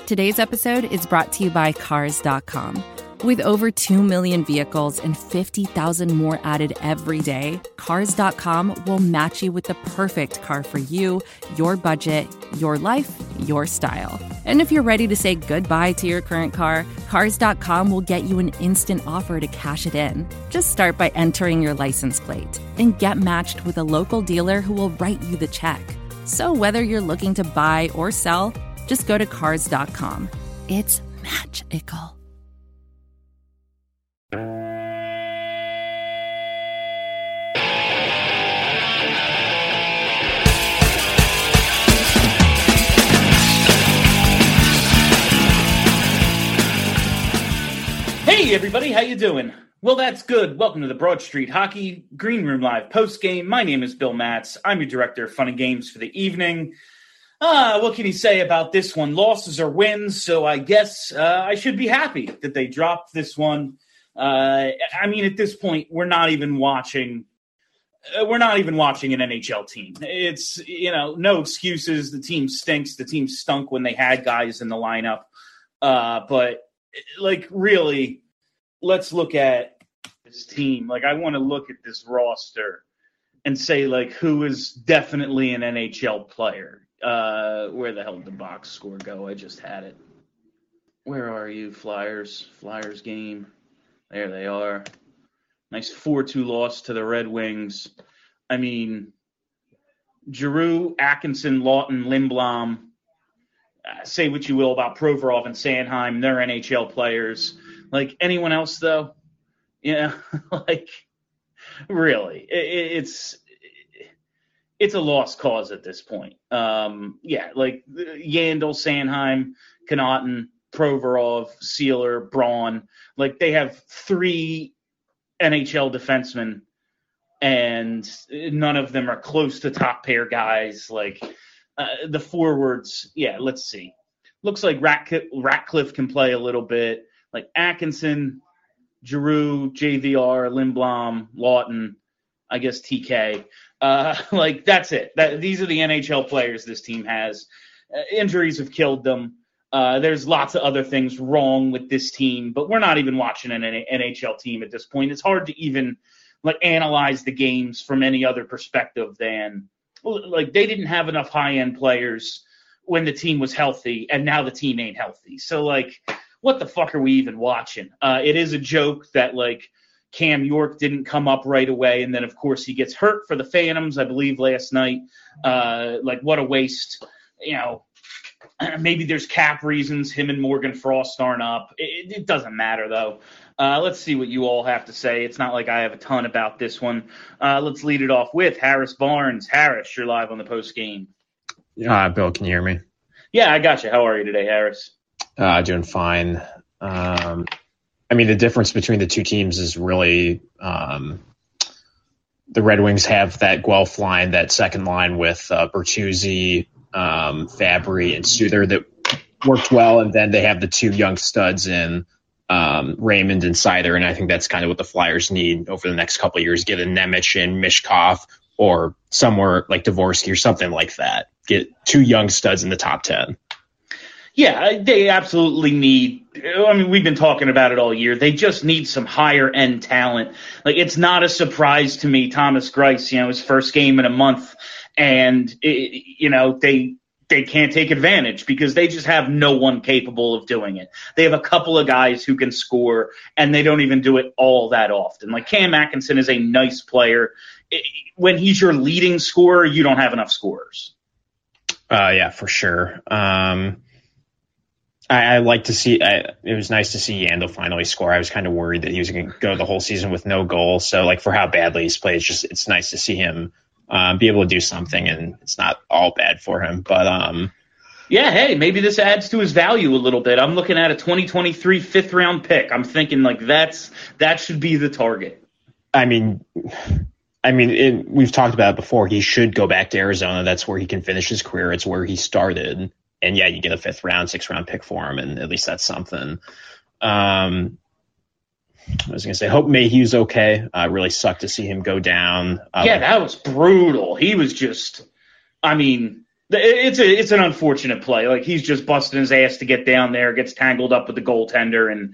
Today's episode is brought to you by Cars.com. With over 2 million vehicles and 50,000 more added every day, Cars.com will match you with the perfect car for you, your budget, your life, your style. And if you're ready to say goodbye to your current car, Cars.com will get you an instant offer to cash it in. Just start by entering your license plate and get matched with a local dealer who will write you the check. So whether you're looking to buy or sell, just go to Cars.com. It's magical. Hey everybody, how you doing? Well, that's good. Welcome to the Broad Street Hockey Green Room Live post-game. My name is Bill Matz. I'm your director of fun and games for the evening. What can you say about this one? Losses or wins, so I guess I should be happy that they dropped this one. I mean, at this point, we're not even watching an NHL team. It's, no excuses. The team stinks. The team stunk when they had guys in the lineup. But, really, let's look at this team. I want to look at this roster and say, who is definitely an NHL player. Where the hell did the box score go? I just had it. Where are you, Flyers? Flyers game. There they are. Nice 4-2 loss to the Red Wings. I mean, Giroux, Atkinson, Lawton, Lindblom. Say what you will about Provorov and Sanheim. They're NHL players. Anyone else, though? Yeah, really. It's a lost cause at this point. Yandel, Sanheim, Connaughton, Provorov, Sealer, Braun. They have 3 NHL defensemen, and none of them are close to top pair guys. The forwards, let's see. Looks like Ratcliffe can play a little bit. Atkinson, Giroux, JVR, Lindblom, Lawton, I guess TK. That's it. These are the NHL players this team has. Injuries have killed them. There's lots of other things wrong with this team, but we're not even watching an NHL team at this point. It's hard to even analyze the games from any other perspective than they didn't have enough high-end players when the team was healthy, and now the team ain't healthy. So what the fuck are we even watching? It is a joke that Cam York didn't come up right away, and then, of course, he gets hurt for the Phantoms, I believe, last night. What a waste. Maybe there's cap reasons. Him and Morgan Frost aren't up. It doesn't matter, though. Let's see what you all have to say. It's not like I have a ton about this one. Let's lead it off with Harris Barnes. Harris, you're live on the post game. Bill, can you hear me? Yeah, I got you. How are you today, Harris? Doing fine. The difference between the two teams is really the Red Wings have that Guelph line, that second line with Bertuzzi, Fabry, and Souther that worked well, and then they have the 2 young studs in Raymond and Seider, and I think that's kind of what the Flyers need over the next couple of years. Get a Nemec and Mishkov, or somewhere like Dvorsky or something like that. Get 2 young studs in the top 10. Yeah, they absolutely need – we've been talking about it all year. They just need some higher-end talent. It's not a surprise to me, Thomas Greiss, his first game in a month, and, they can't take advantage because they just have no one capable of doing it. They have a couple of guys who can score, and they don't even do it all that often. Cam Atkinson is a nice player. When he's your leading scorer, you don't have enough scorers. Yeah, for sure. I like to see it was nice to see Yandel finally score. I was kind of worried that he was going to go the whole season with no goal. So, for how badly he's played, it's nice to see him be able to do something, and it's not all bad for him. But yeah, hey, maybe this adds to his value a little bit. I'm looking at a 2023 5th-round pick. I'm thinking that should be the target. We've talked about it before. He should go back to Arizona. That's where he can finish his career. It's where he started. And yeah, you get a 5th round, 6th round pick for him, and at least that's something. I was going to say, hope Mayhew's okay. Really sucked to see him go down. Yeah, that was brutal. He was just, It's an unfortunate play. Like, he's just busting his ass to get down there, gets tangled up with the goaltender, and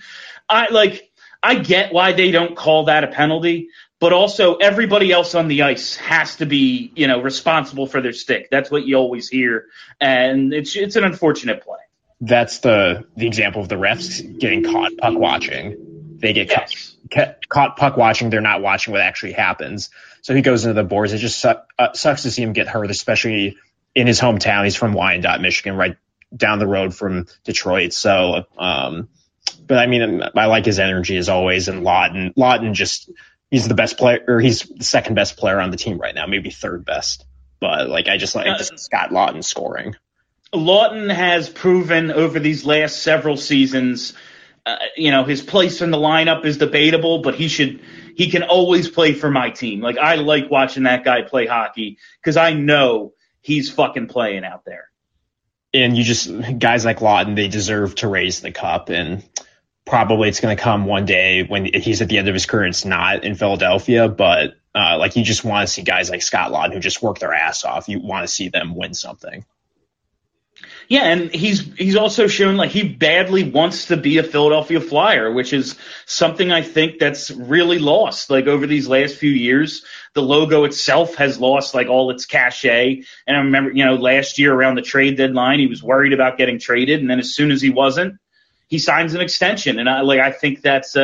I get why they don't call that a penalty, but also everybody else on the ice has to be, responsible for their stick. That's what you always hear, and it's an unfortunate play. That's the example of the refs getting caught puck watching. They get caught puck watching. They're not watching what actually happens. So he goes into the boards. It just sucks to see him get hurt, especially in his hometown. He's from Wyandotte, Michigan, right down the road from Detroit. So, but I mean, I like his energy as always. And Lawton he's the best player, or he's the second best player on the team right now, maybe third best. But I just like Scott Lawton scoring. Lawton has proven over these last several seasons, his place in the lineup is debatable, but he can always play for my team. I like watching that guy play hockey because I know he's fucking playing out there. And guys like Lawton, they deserve to raise the cup, and probably it's going to come one day when he's at the end of his career. It's not in Philadelphia, but you just want to see guys like Scott Lawton who just work their ass off. You want to see them win something. Yeah, and he's also shown he badly wants to be a Philadelphia Flyer, which is something I think that's really lost. Over these last few years, the logo itself has lost all its cachet. And I remember, last year around the trade deadline, he was worried about getting traded, and then as soon as he wasn't, he signs an extension. And I think that's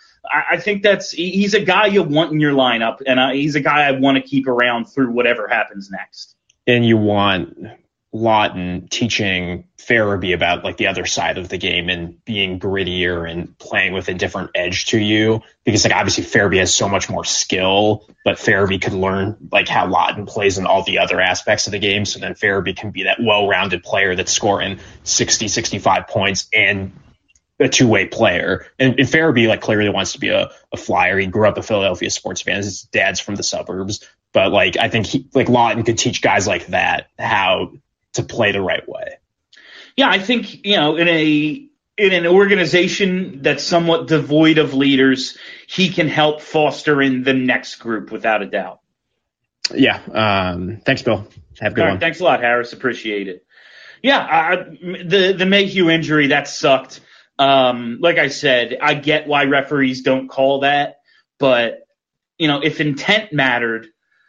he's a guy you want in your lineup, and he's a guy I want to keep around through whatever happens next. And you want Lawton teaching Farabee about the other side of the game and being grittier and playing with a different edge to you, because obviously Farabee has so much more skill, but Farabee could learn how Lawton plays in all the other aspects of the game. So then Farabee can be that well-rounded player that's scoring 60, 65 points and a two-way player. And Farabee clearly wants to be a Flyer. He grew up a Philadelphia sports fan. His dad's from the suburbs, but I think Lawton could teach guys like that how to play the right way. Yeah, I think, in an organization that's somewhat devoid of leaders, he can help foster in the next group without a doubt. Yeah. Thanks, Bill. Have a good one. Thanks a lot, Harris. Appreciate it. Yeah, the Mayhew injury, that sucked. Like I said, I get why referees don't call that, but if intent mattered,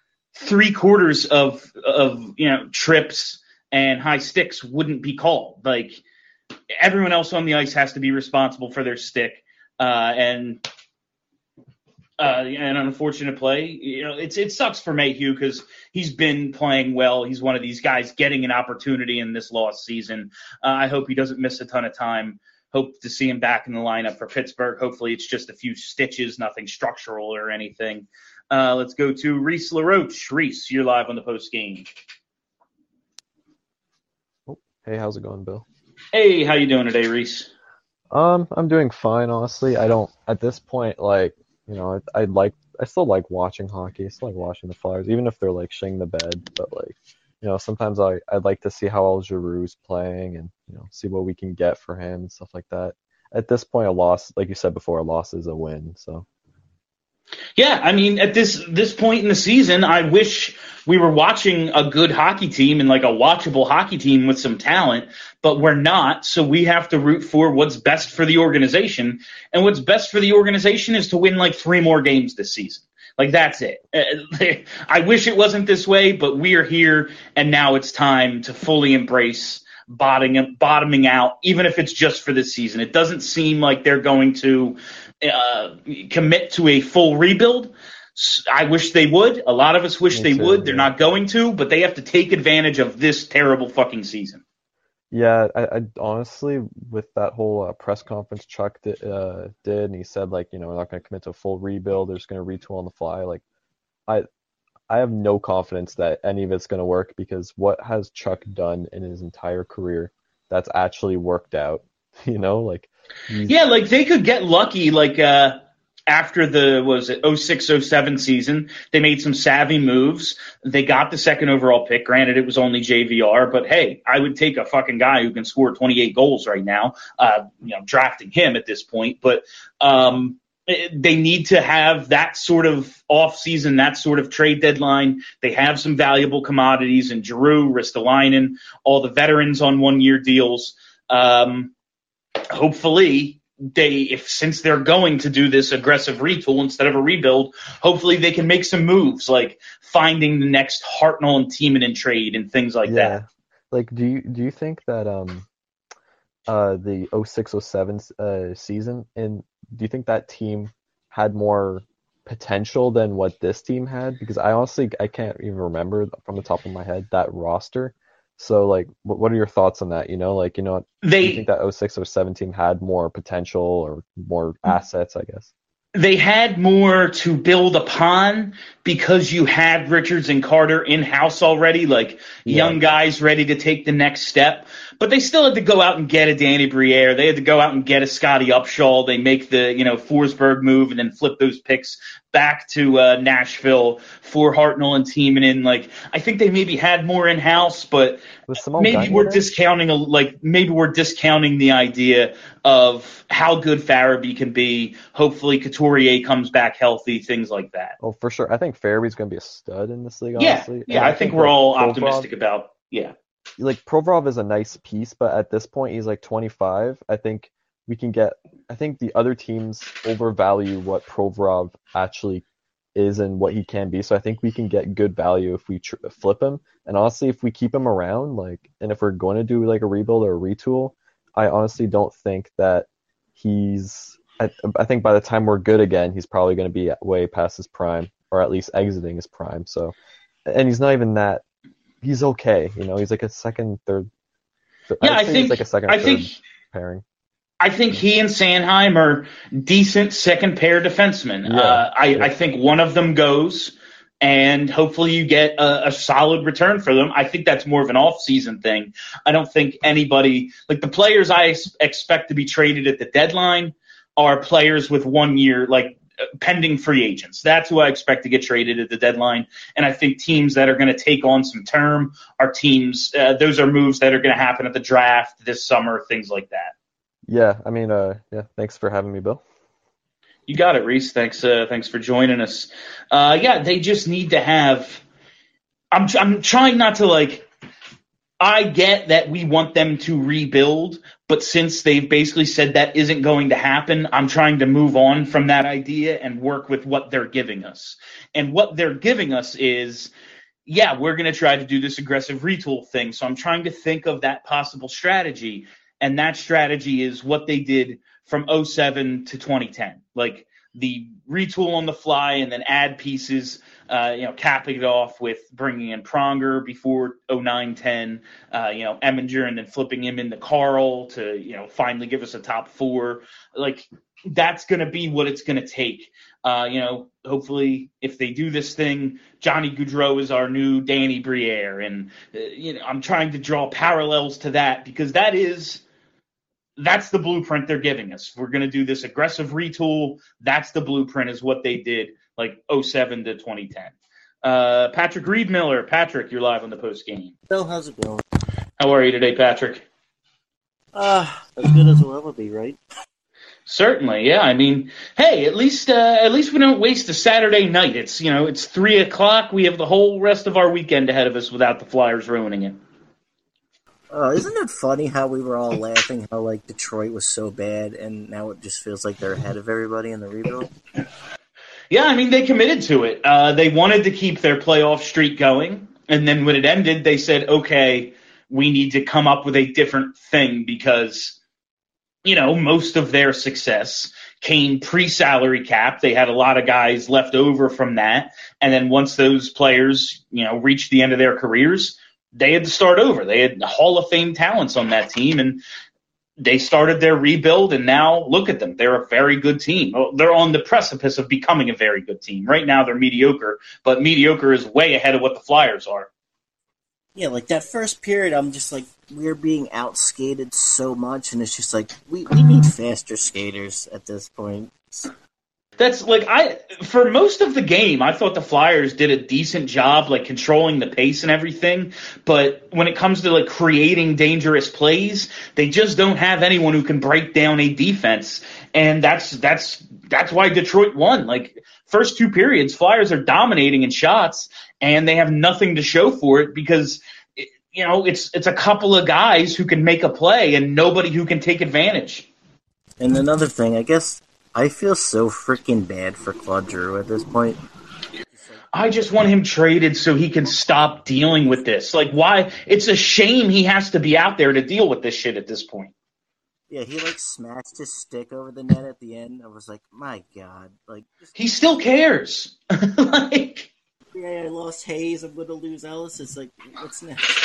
3/4 of trips and high sticks wouldn't be called. Everyone else on the ice has to be responsible for their stick. And an unfortunate play, it sucks for Mayhew because he's been playing well. He's one of these guys getting an opportunity in this lost season. I hope he doesn't miss a ton of time. Hope to see him back in the lineup for Pittsburgh. Hopefully it's just a few stitches, nothing structural or anything. Let's go to Reese LaRoche. Reese, you're live on the post game. Hey, how's it going, Bill? Hey, how you doing today, Reese? I'm doing fine, honestly. I don't, at this point, I still like watching hockey. I still like watching the Flyers, even if they're shitting the bed. But sometimes I'd like to see how El Giroux's playing and see what we can get for him and stuff like that. At this point, a loss, like you said before, a loss is a win. So. Yeah, I mean, at this point in the season, I wish we were watching a good hockey team and a watchable hockey team with some talent, but we're not, so we have to root for what's best for the organization, and what's best for the organization is to win 3 more games this season. That's it. I wish it wasn't this way, but we are here, and now it's time to fully embrace bottoming out, even if it's just for this season. It doesn't seem like they're going to commit to a full rebuild. I wish they would. A lot of us wish they would. They're not going to, but they have to take advantage of this terrible fucking season. Yeah, I honestly, with that whole press conference Chuck did, and he said we're not going to commit to a full rebuild. They're just going to retool on the fly. I have no confidence that any of it's going to work, because what has Chuck done in his entire career that's actually worked out? Yeah, they could get lucky, after the 06-07 season, they made some savvy moves. They got the second overall pick. Granted, it was only JVR, but hey, I would take a fucking guy who can score 28 goals right now, drafting him at this point. But, They need to have that sort of offseason, that sort of trade deadline. They have some valuable commodities in Giroux, Ristolainen, all the veterans on one-year deals. Hopefully, since they're going to do this aggressive retool instead of a rebuild, hopefully they can make some moves like finding the next Hartnell and Timonen trade and things like that. Like, do you think that the 06-07 season, and do you think that team had more potential than what this team had? Because I can't even remember from the top of my head that roster. So, like, what are your thoughts on that? Do you think that 06-07 team had more potential or more assets, I guess? They had more to build upon because you had Richards and Carter in-house already, young guys ready to take the next step. But they still had to go out and get a Danny Briere. They had to go out and get a Scotty Upshall. They make the, Forsberg move and then flip those picks back to Nashville for Hartnell and Timonen. I think they maybe had more in-house, but maybe we're discounting the idea of how good Farabee can be. Hopefully Couturier comes back healthy, things like that. Oh, for sure. I think Farabee's going to be a stud in this league, yeah, honestly. Yeah, I think we're all optimistic about, Provorov is a nice piece, but at this point he's 25. I think the other teams overvalue what Provorov actually is and what he can be. So I think we can get good value if we flip him. And honestly, if we keep him around, and if we're going to do a rebuild or a retool, I honestly don't think that I think by the time we're good again, he's probably going to be way past his prime, or at least exiting his prime. So, and he's not even that. He's okay, he's a second, third. Yeah, I think he's a second, third pairing. I think he and Sanheim are decent second pair defensemen. Yeah, I think one of them goes, and hopefully you get a solid return for them. I think that's more of an off-season thing. I don't think anybody the players I expect to be traded at the deadline are players with 1 year pending free agents. That's who I expect to get traded at the deadline. And I think teams that are going to take on some term are teams, those are moves that are going to happen at the draft this summer, things like that. Yeah, thanks for having me, Bill. You got it, Reese. Thanks for joining us. They just need to have, I'm trying not to I get that we want them to rebuild, but since they've basically said that isn't going to happen, I'm trying to move on from that idea and work with what they're giving us. And what they're giving us is, we're going to try to do this aggressive retool thing. So I'm trying to think of that possible strategy. And that strategy is what they did from 2007 to 2010. The retool on the fly and then add pieces, capping it off with bringing in Pronger before 09-10, Eminger, and then flipping him into Carl to, finally give us a top four. That's going to be what it's going to take. Hopefully if they do this thing, Johnny Gaudreau is our new Danny Briere. And, I'm trying to draw parallels to that because that's the blueprint they're giving us. We're going to do this aggressive retool. That's the blueprint is what they did 07 to 2010. Patrick Reed-Miller. Patrick, you're live on the post game. Bill, how's it going? How are you today, Patrick? As good as we'll ever be, right? Certainly, yeah. Hey, at least we don't waste a Saturday night. It's 3:00. We have the whole rest of our weekend ahead of us without the Flyers ruining it. Isn't it funny how we were all laughing how Detroit was so bad, and now it just feels like they're ahead of everybody in the rebuild? Yeah, they committed to it. They wanted to keep their playoff streak going, and then when it ended, they said, okay, we need to come up with a different thing because, most of their success came pre-salary cap. They had a lot of guys left over from that, and then once those players, reached the end of their careers, they had to start over. They had Hall of Fame talents on that team, and they started their rebuild, and now look at them. They're a very good team. They're on the precipice of becoming a very good team. Right now they're mediocre, but mediocre is way ahead of what the Flyers are. Yeah, that first period, I'm just we're being outskated so much, and it's just we need faster skaters at this point. That's for most of the game, I thought the Flyers did a decent job, like controlling the pace and everything. But when it comes to like creating dangerous plays, they just don't have anyone who can break down a defense. And that's why Detroit won. Like first two periods, Flyers are dominating in shots and they have nothing to show for it because it's a couple of guys who can make a play and nobody who can take advantage. And another thing, I guess I feel so freaking bad for Claude Giroux at this point. I just want him traded so he can stop dealing with this. Like, why? It's a shame he has to be out there to deal with this shit at this point. Yeah, he smashed his stick over the net at the end. I was like, my God, he still cares. Yeah, I lost Hayes. I'm gonna lose Ellis. It's like, what's next?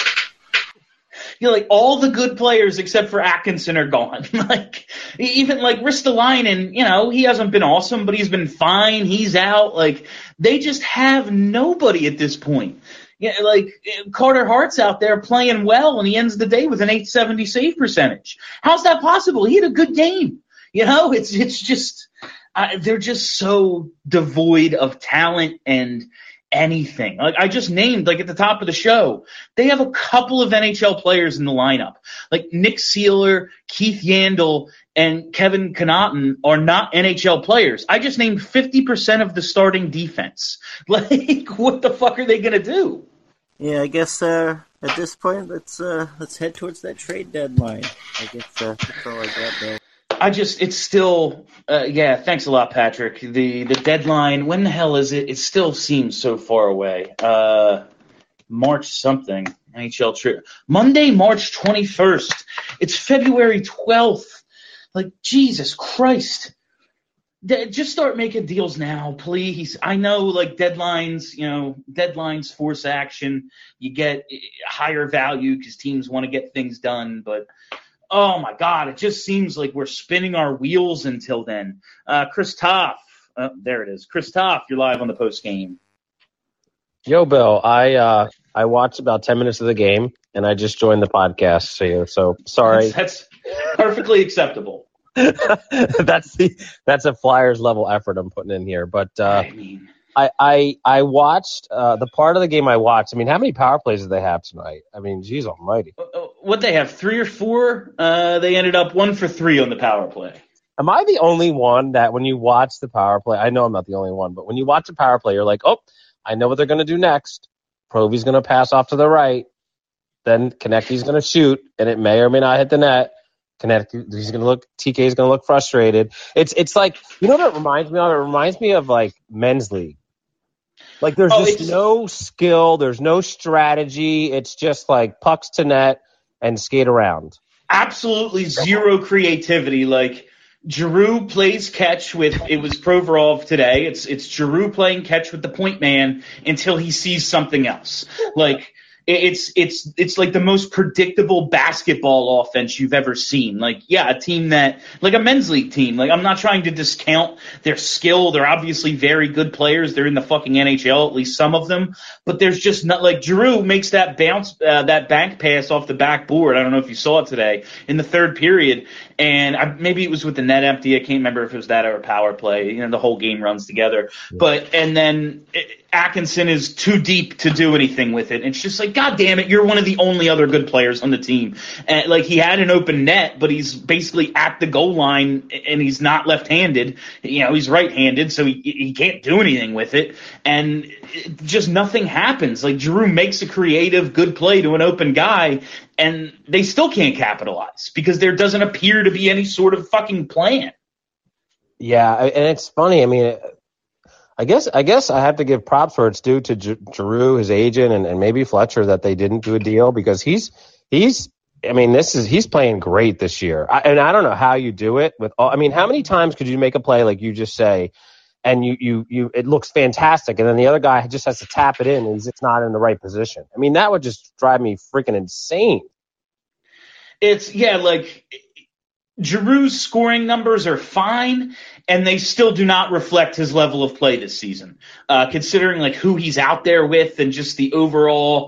All the good players except for Atkinson are gone. Even Ristolainen, he hasn't been awesome, but he's been fine. He's out. They just have nobody at this point. Yeah, Carter Hart's out there playing well, and he ends the day with an .870 save percentage. How's that possible? He had a good game. It's just they're just so devoid of talent and anything. I just named, at the top of the show, they have a couple of NHL players in the lineup. Nick Seeler, Keith Yandel, and Kevin Connaughton are not NHL players. I just named 50% of the starting defense. What the fuck are they going to do? Yeah, I guess at this point, let's head towards that trade deadline. I guess that's all I got there. It's still, thanks a lot, Patrick. The deadline, when the hell is it? It still seems so far away. March something, NHL trip. Monday, March 21st. It's February 12th. Jesus Christ. Just start making deals now, please. I know, deadlines force action. You get higher value because teams want to get things done, but oh, my God, it just seems like we're spinning our wheels until then. Chris Toff, there it is. Chris Toff, you're live on the post game. Yo, Bill, I watched about 10 minutes of the game, and I just joined the podcast here, so sorry. That's perfectly acceptable. That's a Flyers level effort I'm putting in here, but I watched the part of the game I watched. I mean, how many power plays did they have tonight? I mean, geez almighty. What they have, 3 or 4? They ended up 1 for 3 on the power play. Am I the only one that when you watch the power play, I know I'm not the only one, but when you watch a power play, you're like, oh, I know what they're going to do next. Provy's going to pass off to the right. Then Konecny's going to shoot, and it may or may not hit the net. TK's going to look frustrated. It's like, you know what it reminds me of? It reminds me of men's league. There's no skill, there's no strategy. It's just pucks to net and skate around. Absolutely zero creativity. Giroux plays catch with, it was Provorov today. It's Giroux playing catch with the point man until he sees something else. It's like the most predictable basketball offense you've ever seen. A team that, a men's league team. I'm not trying to discount their skill. They're obviously very good players. They're in the fucking NHL, at least some of them. But there's just not, Giroux makes that bounce, that bank pass off the backboard. I don't know if you saw it today in the third period. And maybe it was with the net empty. I can't remember if it was that or a power play. The whole game runs together. And then Atkinson is too deep to do anything with it. It's just God damn it, you're one of the only other good players on the team. And he had an open net, but he's basically at the goal line and he's not left-handed. He's right-handed, so he can't do anything with it. And just nothing happens. Giroux makes a creative, good play to an open guy, and they still can't capitalize because there doesn't appear to be any sort of fucking plan. Yeah, and it's funny. I mean, I guess I have to give props where it's due to Giroux, his agent, and maybe Fletcher that they didn't do a deal because he's playing great this year. And I don't know how you do it with all. I mean, how many times could you make a play like you just say, and you it looks fantastic, and then the other guy just has to tap it in and he's just not in the right position. I mean, that would just drive me freaking insane. Giroux's scoring numbers are fine, and they still do not reflect his level of play this season. Considering who he's out there with and just the overall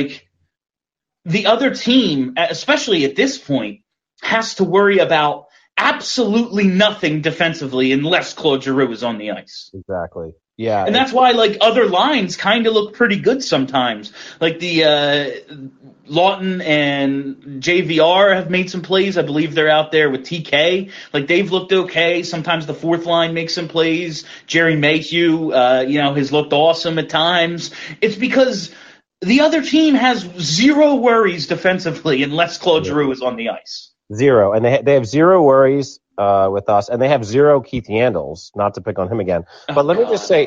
the other team, especially at this point, has to worry about absolutely nothing defensively unless Claude Giroux is on the ice. Exactly. Yeah. And that's why, like, other lines kind of look pretty good sometimes. Like the Lawton and JVR have made some plays. I believe they're out there with TK. Like, they've looked okay. Sometimes the fourth line makes some plays. Jerry Mayhew, has looked awesome at times. It's because the other team has zero worries defensively unless Claude Giroux is on the ice. Zero. And they have zero worries with us, and they have zero Keith Yandles, not to pick on him again. But let me just say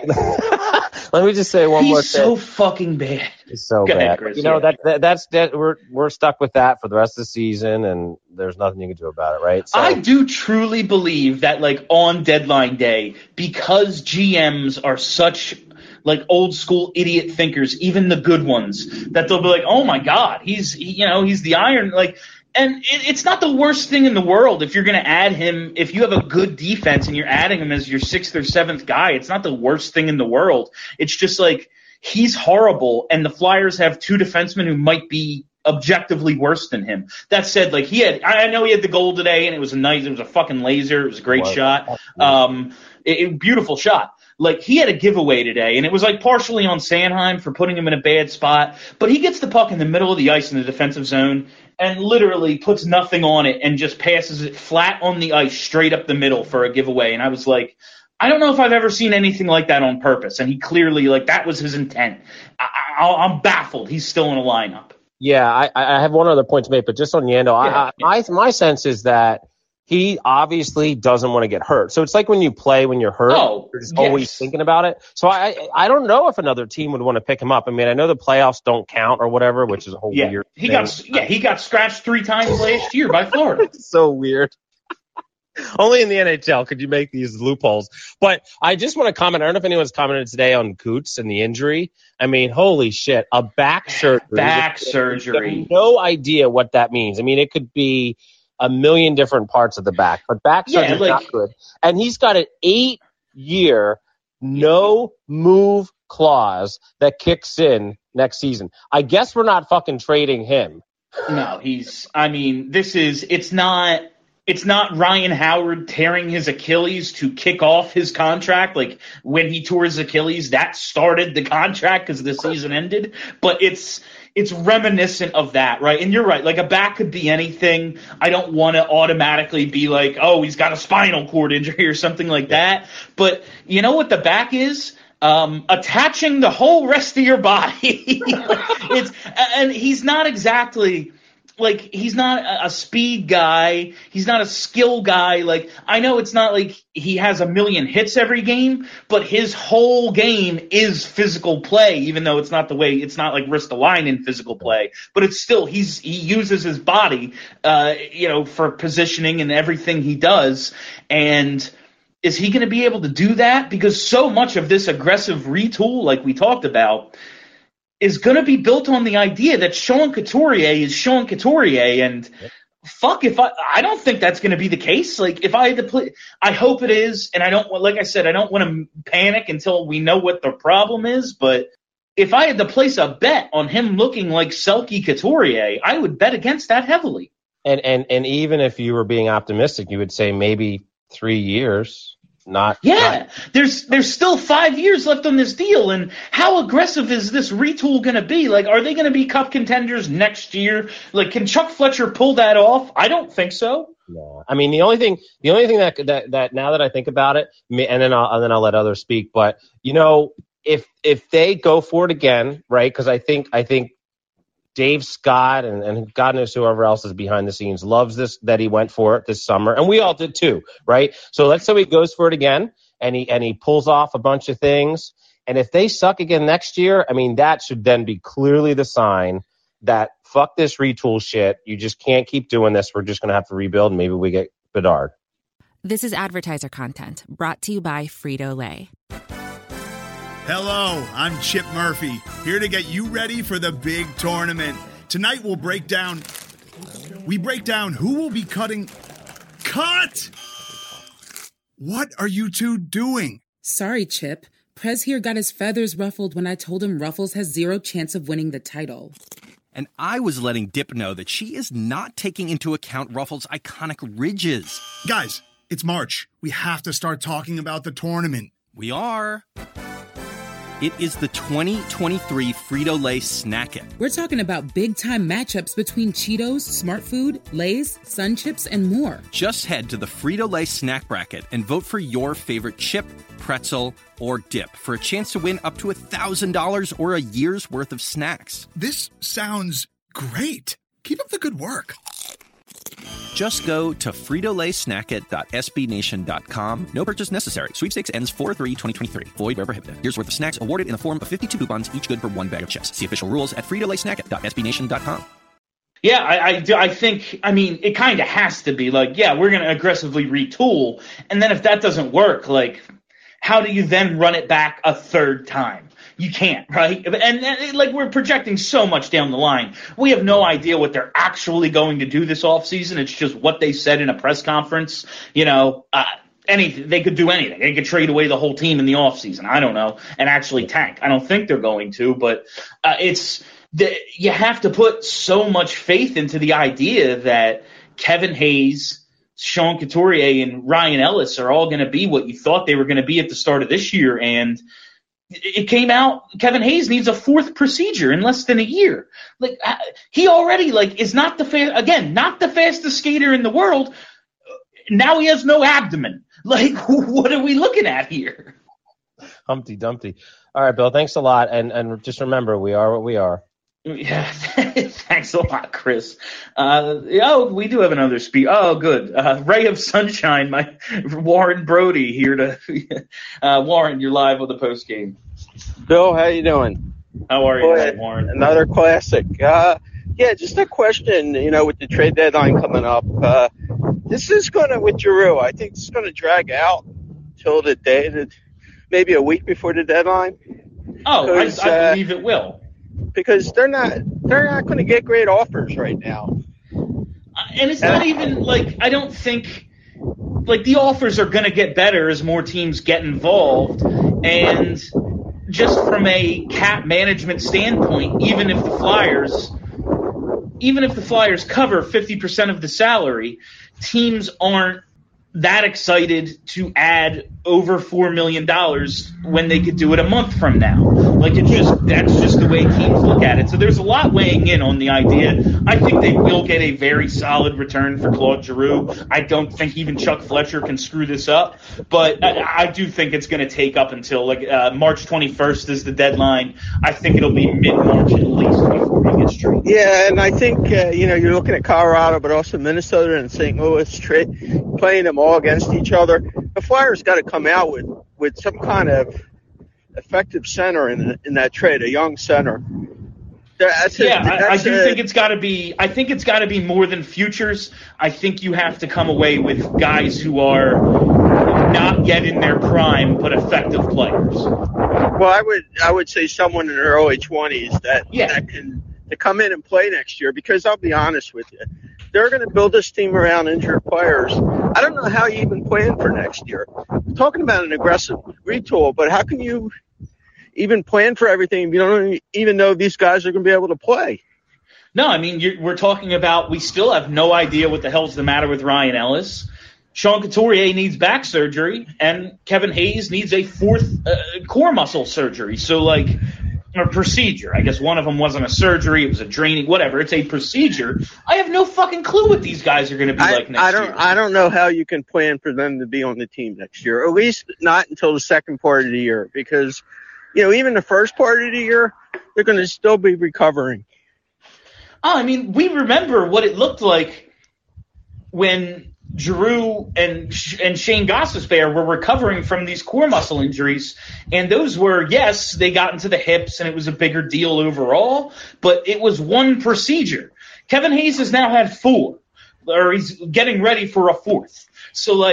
one more thing. He's so fucking bad. He's so Go bad. ahead, Chris. That's we're stuck with that for the rest of the season, and there's nothing you can do about it, right? So, I do truly believe that, like, on deadline day, because GMs are such, like, old school idiot thinkers, even the good ones, that they'll be like, oh my God, he's the iron, like. And it's not the worst thing in the world if you're going to add him. If you have a good defense and you're adding him as your 6th or 7th guy, it's not the worst thing in the world. It's just like, he's horrible, and the Flyers have 2 defensemen who might be objectively worse than him. That said, like, I know he had the goal today, and it was a fucking laser. It was a great shot. Beautiful shot. Like, he had a giveaway today, and it was, like, partially on Sanheim for putting him in a bad spot, but he gets the puck in the middle of the ice in the defensive zone and literally puts nothing on it and just passes it flat on the ice straight up the middle for a giveaway. And I was like, I don't know if I've ever seen anything like that on purpose. And he clearly, like, that was his intent. I'm baffled he's still in a lineup. Yeah, I have one other point to make, but just on Yandle, my sense is that he obviously doesn't want to get hurt. So it's like when you play when you're hurt, you're just always thinking about it. So I don't know if another team would want to pick him up. I mean, I know the playoffs don't count or whatever, which is a whole weird thing. He got scratched 3 times last year by Florida. It's so weird. Only in the NHL could you make these loopholes. But I just want to comment. I don't know if anyone's commented today on Coots and the injury. I mean, holy shit, a back surgery. Back surgery. I have no idea what that means. I mean, it could be a million different parts of the back, but back surgery is not good. And he's got an 8-year no move clause that kicks in next season. I guess we're not fucking trading him. No, it's not Ryan Howard tearing his Achilles to kick off his contract. Like, when he tore his Achilles, that started the contract because the season ended. But it's reminiscent of that, right? And you're right. Like, a back could be anything. I don't want to automatically be like, oh, he's got a spinal cord injury or something like that. But you know what the back is? Attaching the whole rest of your body. And he's not exactly. Like, he's not a speed guy. He's not a skill guy. Like, I know it's not like he has a million hits every game, but his whole game is physical play, even though it's not like Ristolainen physical play. But it's still, he uses his body, for positioning and everything he does. And is he going to be able to do that? Because so much of this aggressive retool, like we talked about, is going to be built on the idea that Sean Couturier is Sean Couturier, and fuck if I don't think that's going to be the case. Like, if I had to play, I hope it is, and I don't want to panic until we know what the problem is, but if I had to place a bet on him looking like Selke Couturier, I would bet against that heavily. And even if you were being optimistic, you would say maybe 3 years. There's still 5 years left on this deal, and how aggressive is this retool going to be? Like, are they going to be cup contenders next year? Like, can Chuck Fletcher pull that off? I don't think so. No, I mean the only thing that now that I think about it, and then I'll let others speak. But if they go for it again, right? Because I think Dave Scott and God knows whoever else is behind the scenes loves this, that he went for it this summer, and we all did too, right? So let's say he goes for it again and he pulls off a bunch of things, and if they suck again next year, I mean, that should then be clearly the sign that fuck this retool shit. You just can't keep doing this. We're just going to have to rebuild, and maybe we get Bedard. This is advertiser content brought to you by Frito-Lay. Hello, I'm Chip Murphy, here to get you ready for the big tournament. Tonight we'll break down who will be cutting. Cut! What are you two doing? Sorry, Chip. Prez here got his feathers ruffled when I told him Ruffles has zero chance of winning the title. And I was letting Dip know that she is not taking into account Ruffles' iconic ridges. Guys, it's March. We have to start talking about the tournament. We are. It is the 2023 Frito-Lay Snack It. We're talking about big-time matchups between Cheetos, Smart Food, Lay's, Sun Chips, and more. Just head to the Frito-Lay Snack Bracket and vote for your favorite chip, pretzel, or dip for a chance to win up to $1,000 or a year's worth of snacks. This sounds great. Keep up the good work. Just go to fritolaysnackit.sbnation.com. No purchase necessary. Sweepstakes ends 4/3/2023. Void where prohibited. Year's worth of snacks awarded in the form of 52 coupons, each good for one bag of chips. See official rules at fritolaysnackit.sbnation.com. Yeah, I think, I mean, it kind of has to be like, yeah, we're going to aggressively retool. And then if that doesn't work, like, how do you then run it back a third time? You can't, right? And like, we're projecting so much down the line. We have no idea what they're actually going to do this offseason. It's just what they said in a press conference. You know, anything. They could do anything. They could trade away the whole team in the offseason. I don't know. And actually tank. I don't think they're going to, but you have to put so much faith into the idea that Kevin Hayes, Sean Couturier, and Ryan Ellis are all going to be what you thought they were going to be at the start of this year. And it came out Kevin Hayes needs a fourth procedure in less than a year. Like, he already is not not the fastest skater in the world. Now he has no abdomen. Like, what are we looking at here? Humpty Dumpty. All right, Bill, thanks a lot. And just remember, we are what we are. Yeah, thanks a lot, Chris. We do have another speak. Oh, good. Ray of Sunshine, Warren Brody here to Warren, you're live with the post game. Bill, how you doing? How are you, Warren? Another classic. Just a question, with the trade deadline coming up. This is with Giroux, I think this is going to drag out till the day, maybe a week before the deadline. Oh, I believe it will. Because they're not going to get great offers right now. And it's not even I don't think the offers are going to get better as more teams get involved. And just from a cap management standpoint, even if the Flyers cover 50% of the salary, teams aren't that excited to add over $4 million when they could do it a month from now. That's just the way teams look at it. So there's a lot weighing in on the idea. I think they will get a very solid return for Claude Giroux. I don't think even Chuck Fletcher can screw this up, but I do think it's going to take up until March 21st is the deadline. I think it'll be mid-March at least before he gets traded. Yeah, and I think, you're looking at Colorado, but also Minnesota and St. Louis playing them all against each other. The Flyers got to come out with some kind of effective center in that trade, a young center. I think it's got to be. I think it's got to be more than futures. I think you have to come away with guys who are not yet in their prime but effective players. Well, I would say someone in their early 20s that can come in and play next year. Because I'll be honest with you, they're going to build this team around injured players. I don't know how you even plan for next year. We're talking about an aggressive retool, but how can you even plan for everything if you don't even know if these guys are going to be able to play? No, I mean, we're talking about we still have no idea what the hell's the matter with Ryan Ellis. Sean Couturier needs back surgery, and Kevin Hayes needs a fourth core muscle surgery. So, or procedure. I guess one of them wasn't a surgery. It was a draining, whatever. It's a procedure. I have no fucking clue what these guys are going to be next year. I don't know how you can plan for them to be on the team next year, or at least not until the second part of the year, because, even the first part of the year, they're going to still be recovering. Oh, I mean, we remember what it looked like when Giroux and Shane Gostisbehere were recovering from these core muscle injuries, and those were, yes, they got into the hips and it was a bigger deal overall, but it was one procedure. Kevin Hayes has now had 4, or he's getting ready for a 4th. So,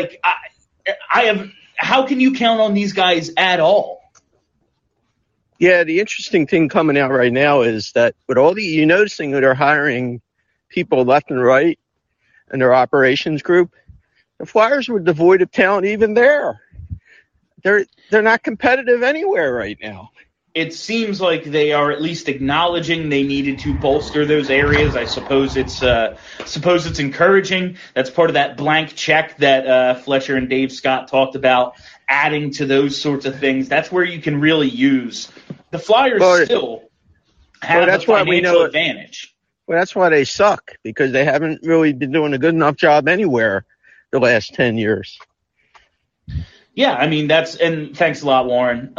how can you count on these guys at all? Yeah, the interesting thing coming out right now is that with all you're noticing that they're hiring people left and right in their operations group, the Flyers were devoid of talent even there. They're not competitive anywhere right now. it seems like they are at least acknowledging they needed to bolster those areas. I suppose it's encouraging. That's part of that blank check that Fletcher and Dave Scott talked about, adding to those sorts of things. That's where you can really use. The Flyers still have a financial advantage. Well, that's why they suck, because they haven't really been doing a good enough job anywhere the last 10 years. Yeah, I mean, and thanks a lot, Warren.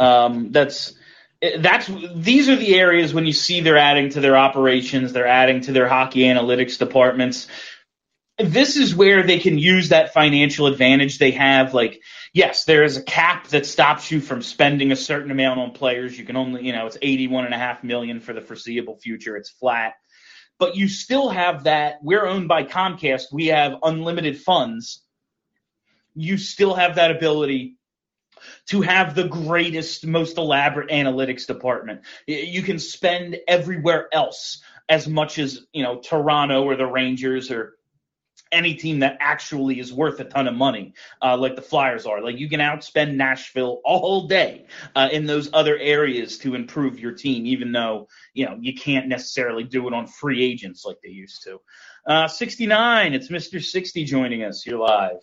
These are the areas when you see they're adding to their operations, they're adding to their hockey analytics departments. This is where they can use that financial advantage they have. Like, yes, there is a cap that stops you from spending a certain amount on players. You can only, it's $81.5 million for the foreseeable future. It's flat. But you still have that. We're owned by Comcast. We have unlimited funds. You still have that ability to have the greatest, most elaborate analytics department. You can spend everywhere else as much as, Toronto or the Rangers or any team that actually is worth a ton of money, like the Flyers are. Like, you can outspend Nashville all day in those other areas to improve your team, even though, you can't necessarily do it on free agents like they used to. 69, it's Mr. 60 joining us. You're live.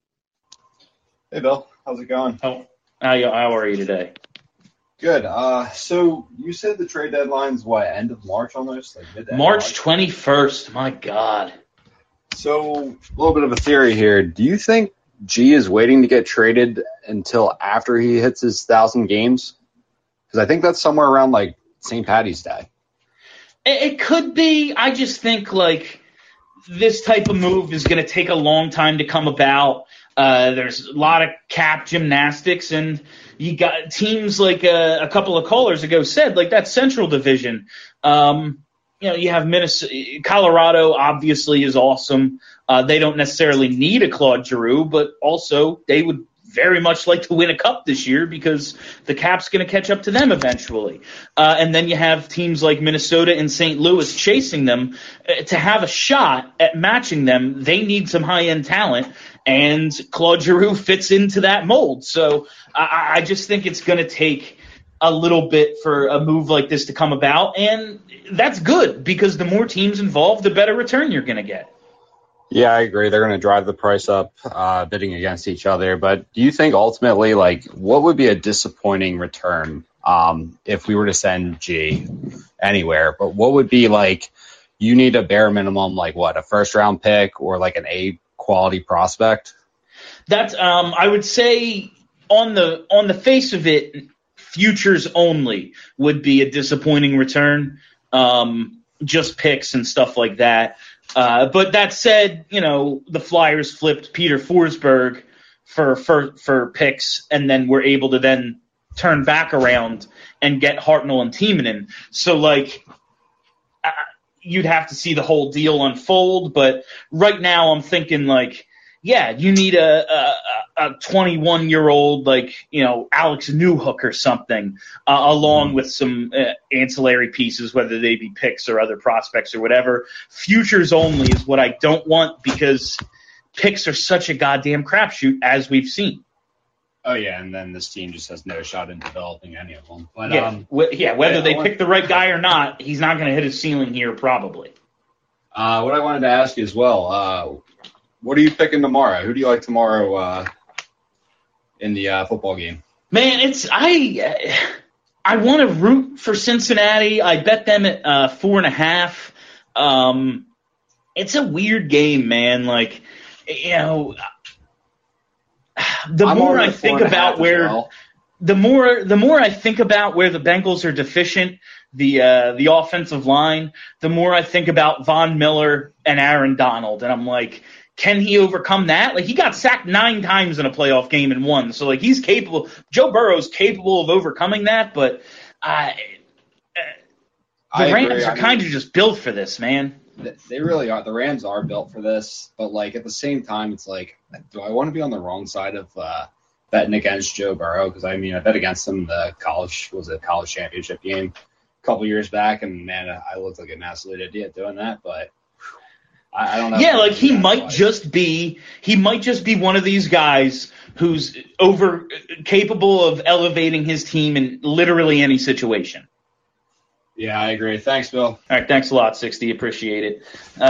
Hey, Bill. How's it going? How are you today? Good. So you said the trade deadline's end of March almost? Like mid-end March 21st. My God. So a little bit of a theory here. Do you think G is waiting to get traded until after he hits his 1,000 games? Because I think that's somewhere around like St. Paddy's Day. It could be. I just think this type of move is going to take a long time to come about. There's a lot of cap gymnastics, and you got teams like a couple of callers ago said, like that Central Division. You have Minnesota, Colorado obviously is awesome. They don't necessarily need a Claude Giroux, but also they would very much like to win a cup this year because the cap's going to catch up to them eventually. And then you have teams like Minnesota and St. Louis chasing them. To have a shot at matching them, they need some high-end talent, and Claude Giroux fits into that mold. So I just think it's going to take a little bit for a move like this to come about, and that's good because the more teams involved, the better return you're going to get. Yeah, I agree. They're going to drive the price up, bidding against each other. But do you think ultimately, what would be a disappointing return if we were to send G anywhere? But what would be you need a bare minimum, a first-round pick or an A-quality prospect? That's I would say on the face of it, futures only would be a disappointing return. Just picks and stuff like that. But that said, the Flyers flipped Peter Forsberg for picks, and then were able to then turn back around and get Hartnell and Timonen. So, you'd have to see the whole deal unfold. But right now I'm thinking, you need a 21-year-old, Alex Newhook or something, along with some ancillary pieces, whether they be picks or other prospects or whatever. Futures only is what I don't want because picks are such a goddamn crapshoot, as we've seen. Oh, yeah, and then this team just has no shot in developing any of them. But, whether they pick the right guy or not, he's not going to hit his ceiling here probably. What I wanted to ask you as well, what are you picking tomorrow? Who do you like tomorrow in the football game? Man, I want to root for Cincinnati. I bet them at 4.5. It's a weird game, man. The more I think about where the more I think about where the Bengals are deficient, the offensive line, the more I think about Von Miller and Aaron Donald, and I'm like, can he overcome that? He got sacked 9 times in a playoff game and won. So, he's capable. Joe Burrow's capable of overcoming that, but the Rams are kind of just built for this, man. They really are. The Rams are built for this, but, at the same time, it's do I want to be on the wrong side of betting against Joe Burrow? Because, I bet against him the college championship game a couple years back, and, man, I looked like an absolute idiot doing that, but I don't know. Yeah, he might just be one of these guys who's capable of elevating his team in literally any situation. Yeah, I agree. Thanks, Bill. All right, thanks a lot, 60. Appreciate it.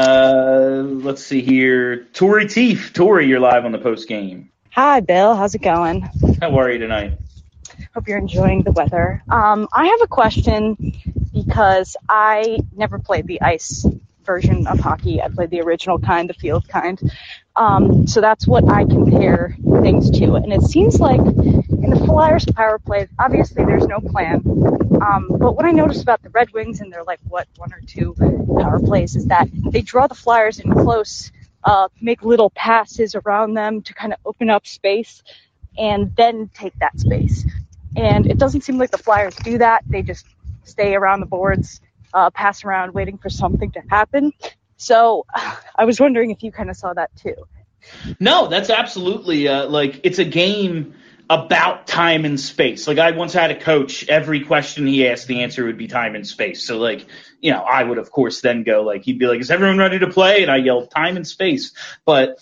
Let's see here. Tori Teef. Tori, you're live on the post game. Hi, Bill. How's it going? How are you tonight? Hope you're enjoying the weather. I have a question because I never played the ice version of hockey. I played the original kind, the field kind. So that's what I compare things to. And it seems like in the Flyers power play, obviously there's no plan. But what I noticed about the Red Wings and their, 1 or 2 power plays is that they draw the Flyers in close, make little passes around them to kind of open up space, and then take that space. And it doesn't seem like the Flyers do that. They just stay around the boards, pass around, waiting for something to happen. So I was wondering if you kind of saw that too. No, that's absolutely it's a game about time and space. Like, I once had a coach, every question he asked, the answer would be time and space. So, I would, of course, then go, he'd be like, is everyone ready to play? And I yelled, time and space. But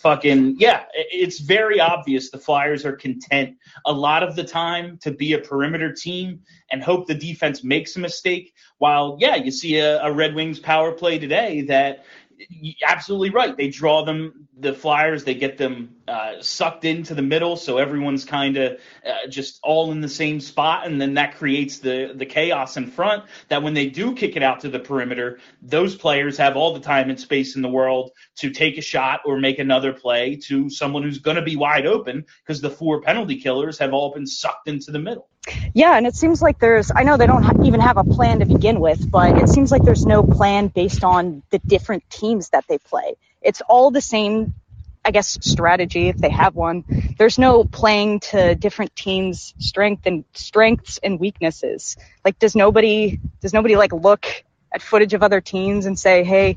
it's very obvious the Flyers are content a lot of the time to be a perimeter team and hope the defense makes a mistake. While, you see a Red Wings power play today that, absolutely right. They draw the Flyers, they get them sucked into the middle, so everyone's kind of just all in the same spot, and then that creates the chaos in front that when they do kick it out to the perimeter, those players have all the time and space in the world to take a shot or make another play to someone who's going to be wide open because the 4 penalty killers have all been sucked into the middle. Yeah, and it seems like I know they don't even have a plan to begin with, but it seems like there's no plan based on the different teams that they play. It's all the same, I guess, strategy if they have one. There's no playing to different teams' strengths and weaknesses. Does nobody look at footage of other teams and say, hey,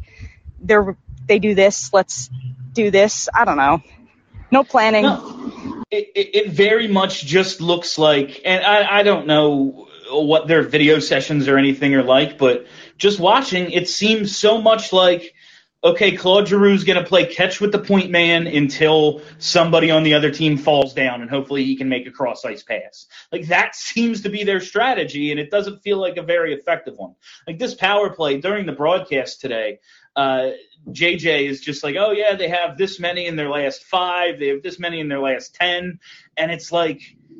they do this, let's do this? I don't know. No planning. No. It very much just looks like, and I don't know what their video sessions or anything are like, but just watching, it seems so much like, okay, Claude Giroux's going to play catch with the point man until somebody on the other team falls down, and hopefully he can make a cross-ice pass. That seems to be their strategy, and it doesn't feel like a very effective one. This power play during the broadcast today, JJ is just like, oh, yeah, they have this many in their last 5. They have this many in their last 10. And it's like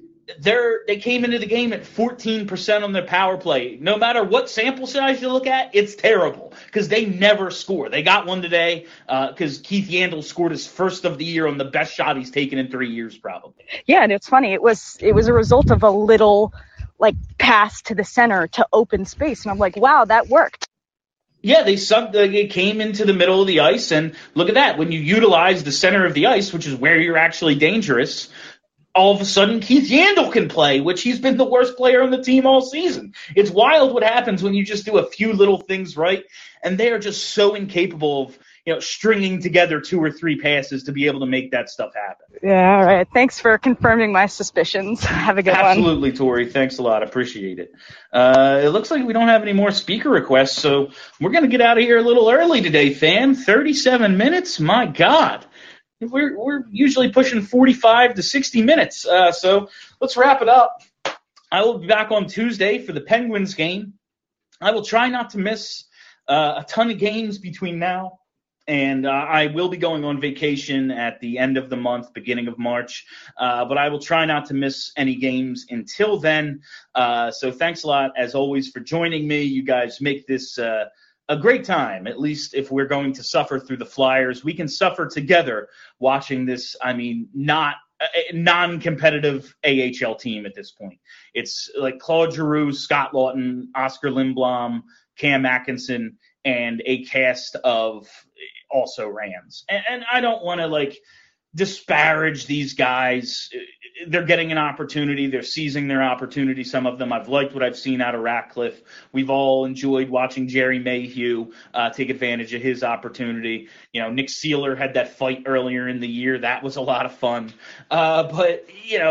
they came into the game at 14% on their power play. No matter what sample size you look at, it's terrible because they never score. They got one today because Keith Yandle scored his first of the year on the best shot he's taken in 3 years probably. Yeah, and it's funny. It was a result of a little, pass to the center to open space. And I'm like, wow, that worked. Yeah, they came into the middle of the ice, and look at that. When you utilize the center of the ice, which is where you're actually dangerous, all of a sudden Keith Yandle can play, which he's been the worst player on the team all season. It's wild what happens when you just do a few little things right, and they are just so incapable of stringing together 2 or 3 passes to be able to make that stuff happen. Yeah, all right. Thanks for confirming my suspicions. Have a good one. Absolutely, Tori. Thanks a lot. Appreciate it. It looks like we don't have any more speaker requests, so we're going to get out of here a little early today, fam. 37 minutes? My God. We're usually pushing 45 to 60 minutes, so let's wrap it up. I will be back on Tuesday for the Penguins game. I will try not to miss a ton of games between now. And I will be going on vacation at the end of the month, beginning of March. But I will try not to miss any games until then. So thanks a lot, as always, for joining me. You guys make this a great time, at least if we're going to suffer through the Flyers. We can suffer together watching this, not non-competitive AHL team at this point. It's like Claude Giroux, Scott Lawton, Oscar Lindblom, Cam Atkinson, and a cast of also Rams. And I don't want to disparage these guys. They're getting an opportunity. They're seizing their opportunity. Some of them, I've liked what I've seen out of Ratcliffe. We've all enjoyed watching Jerry Mayhew take advantage of his opportunity. Nick Seeler had that fight earlier in the year. That was a lot of fun. But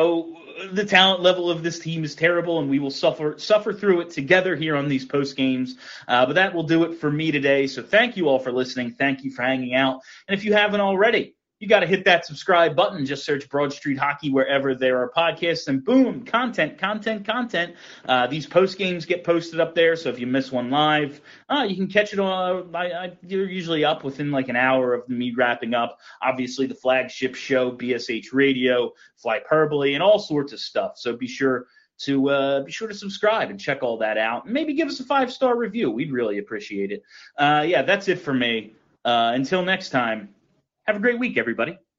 the talent level of this team is terrible, and we will suffer through it together here on these post games. But that will do it for me today. So thank you all for listening. Thank you for hanging out. And if you haven't already, you got to hit that subscribe button. Just search Broad Street Hockey wherever there are podcasts, and boom, content. These post games get posted up there, so if you miss one live, you can catch it on. You're usually up within like an hour of me wrapping up. Obviously, the flagship show, BSH Radio, Flyperbole, and all sorts of stuff. So be sure to subscribe and check all that out. And maybe give us a 5-star review. We'd really appreciate it. That's it for me. Until next time, have a great week, everybody.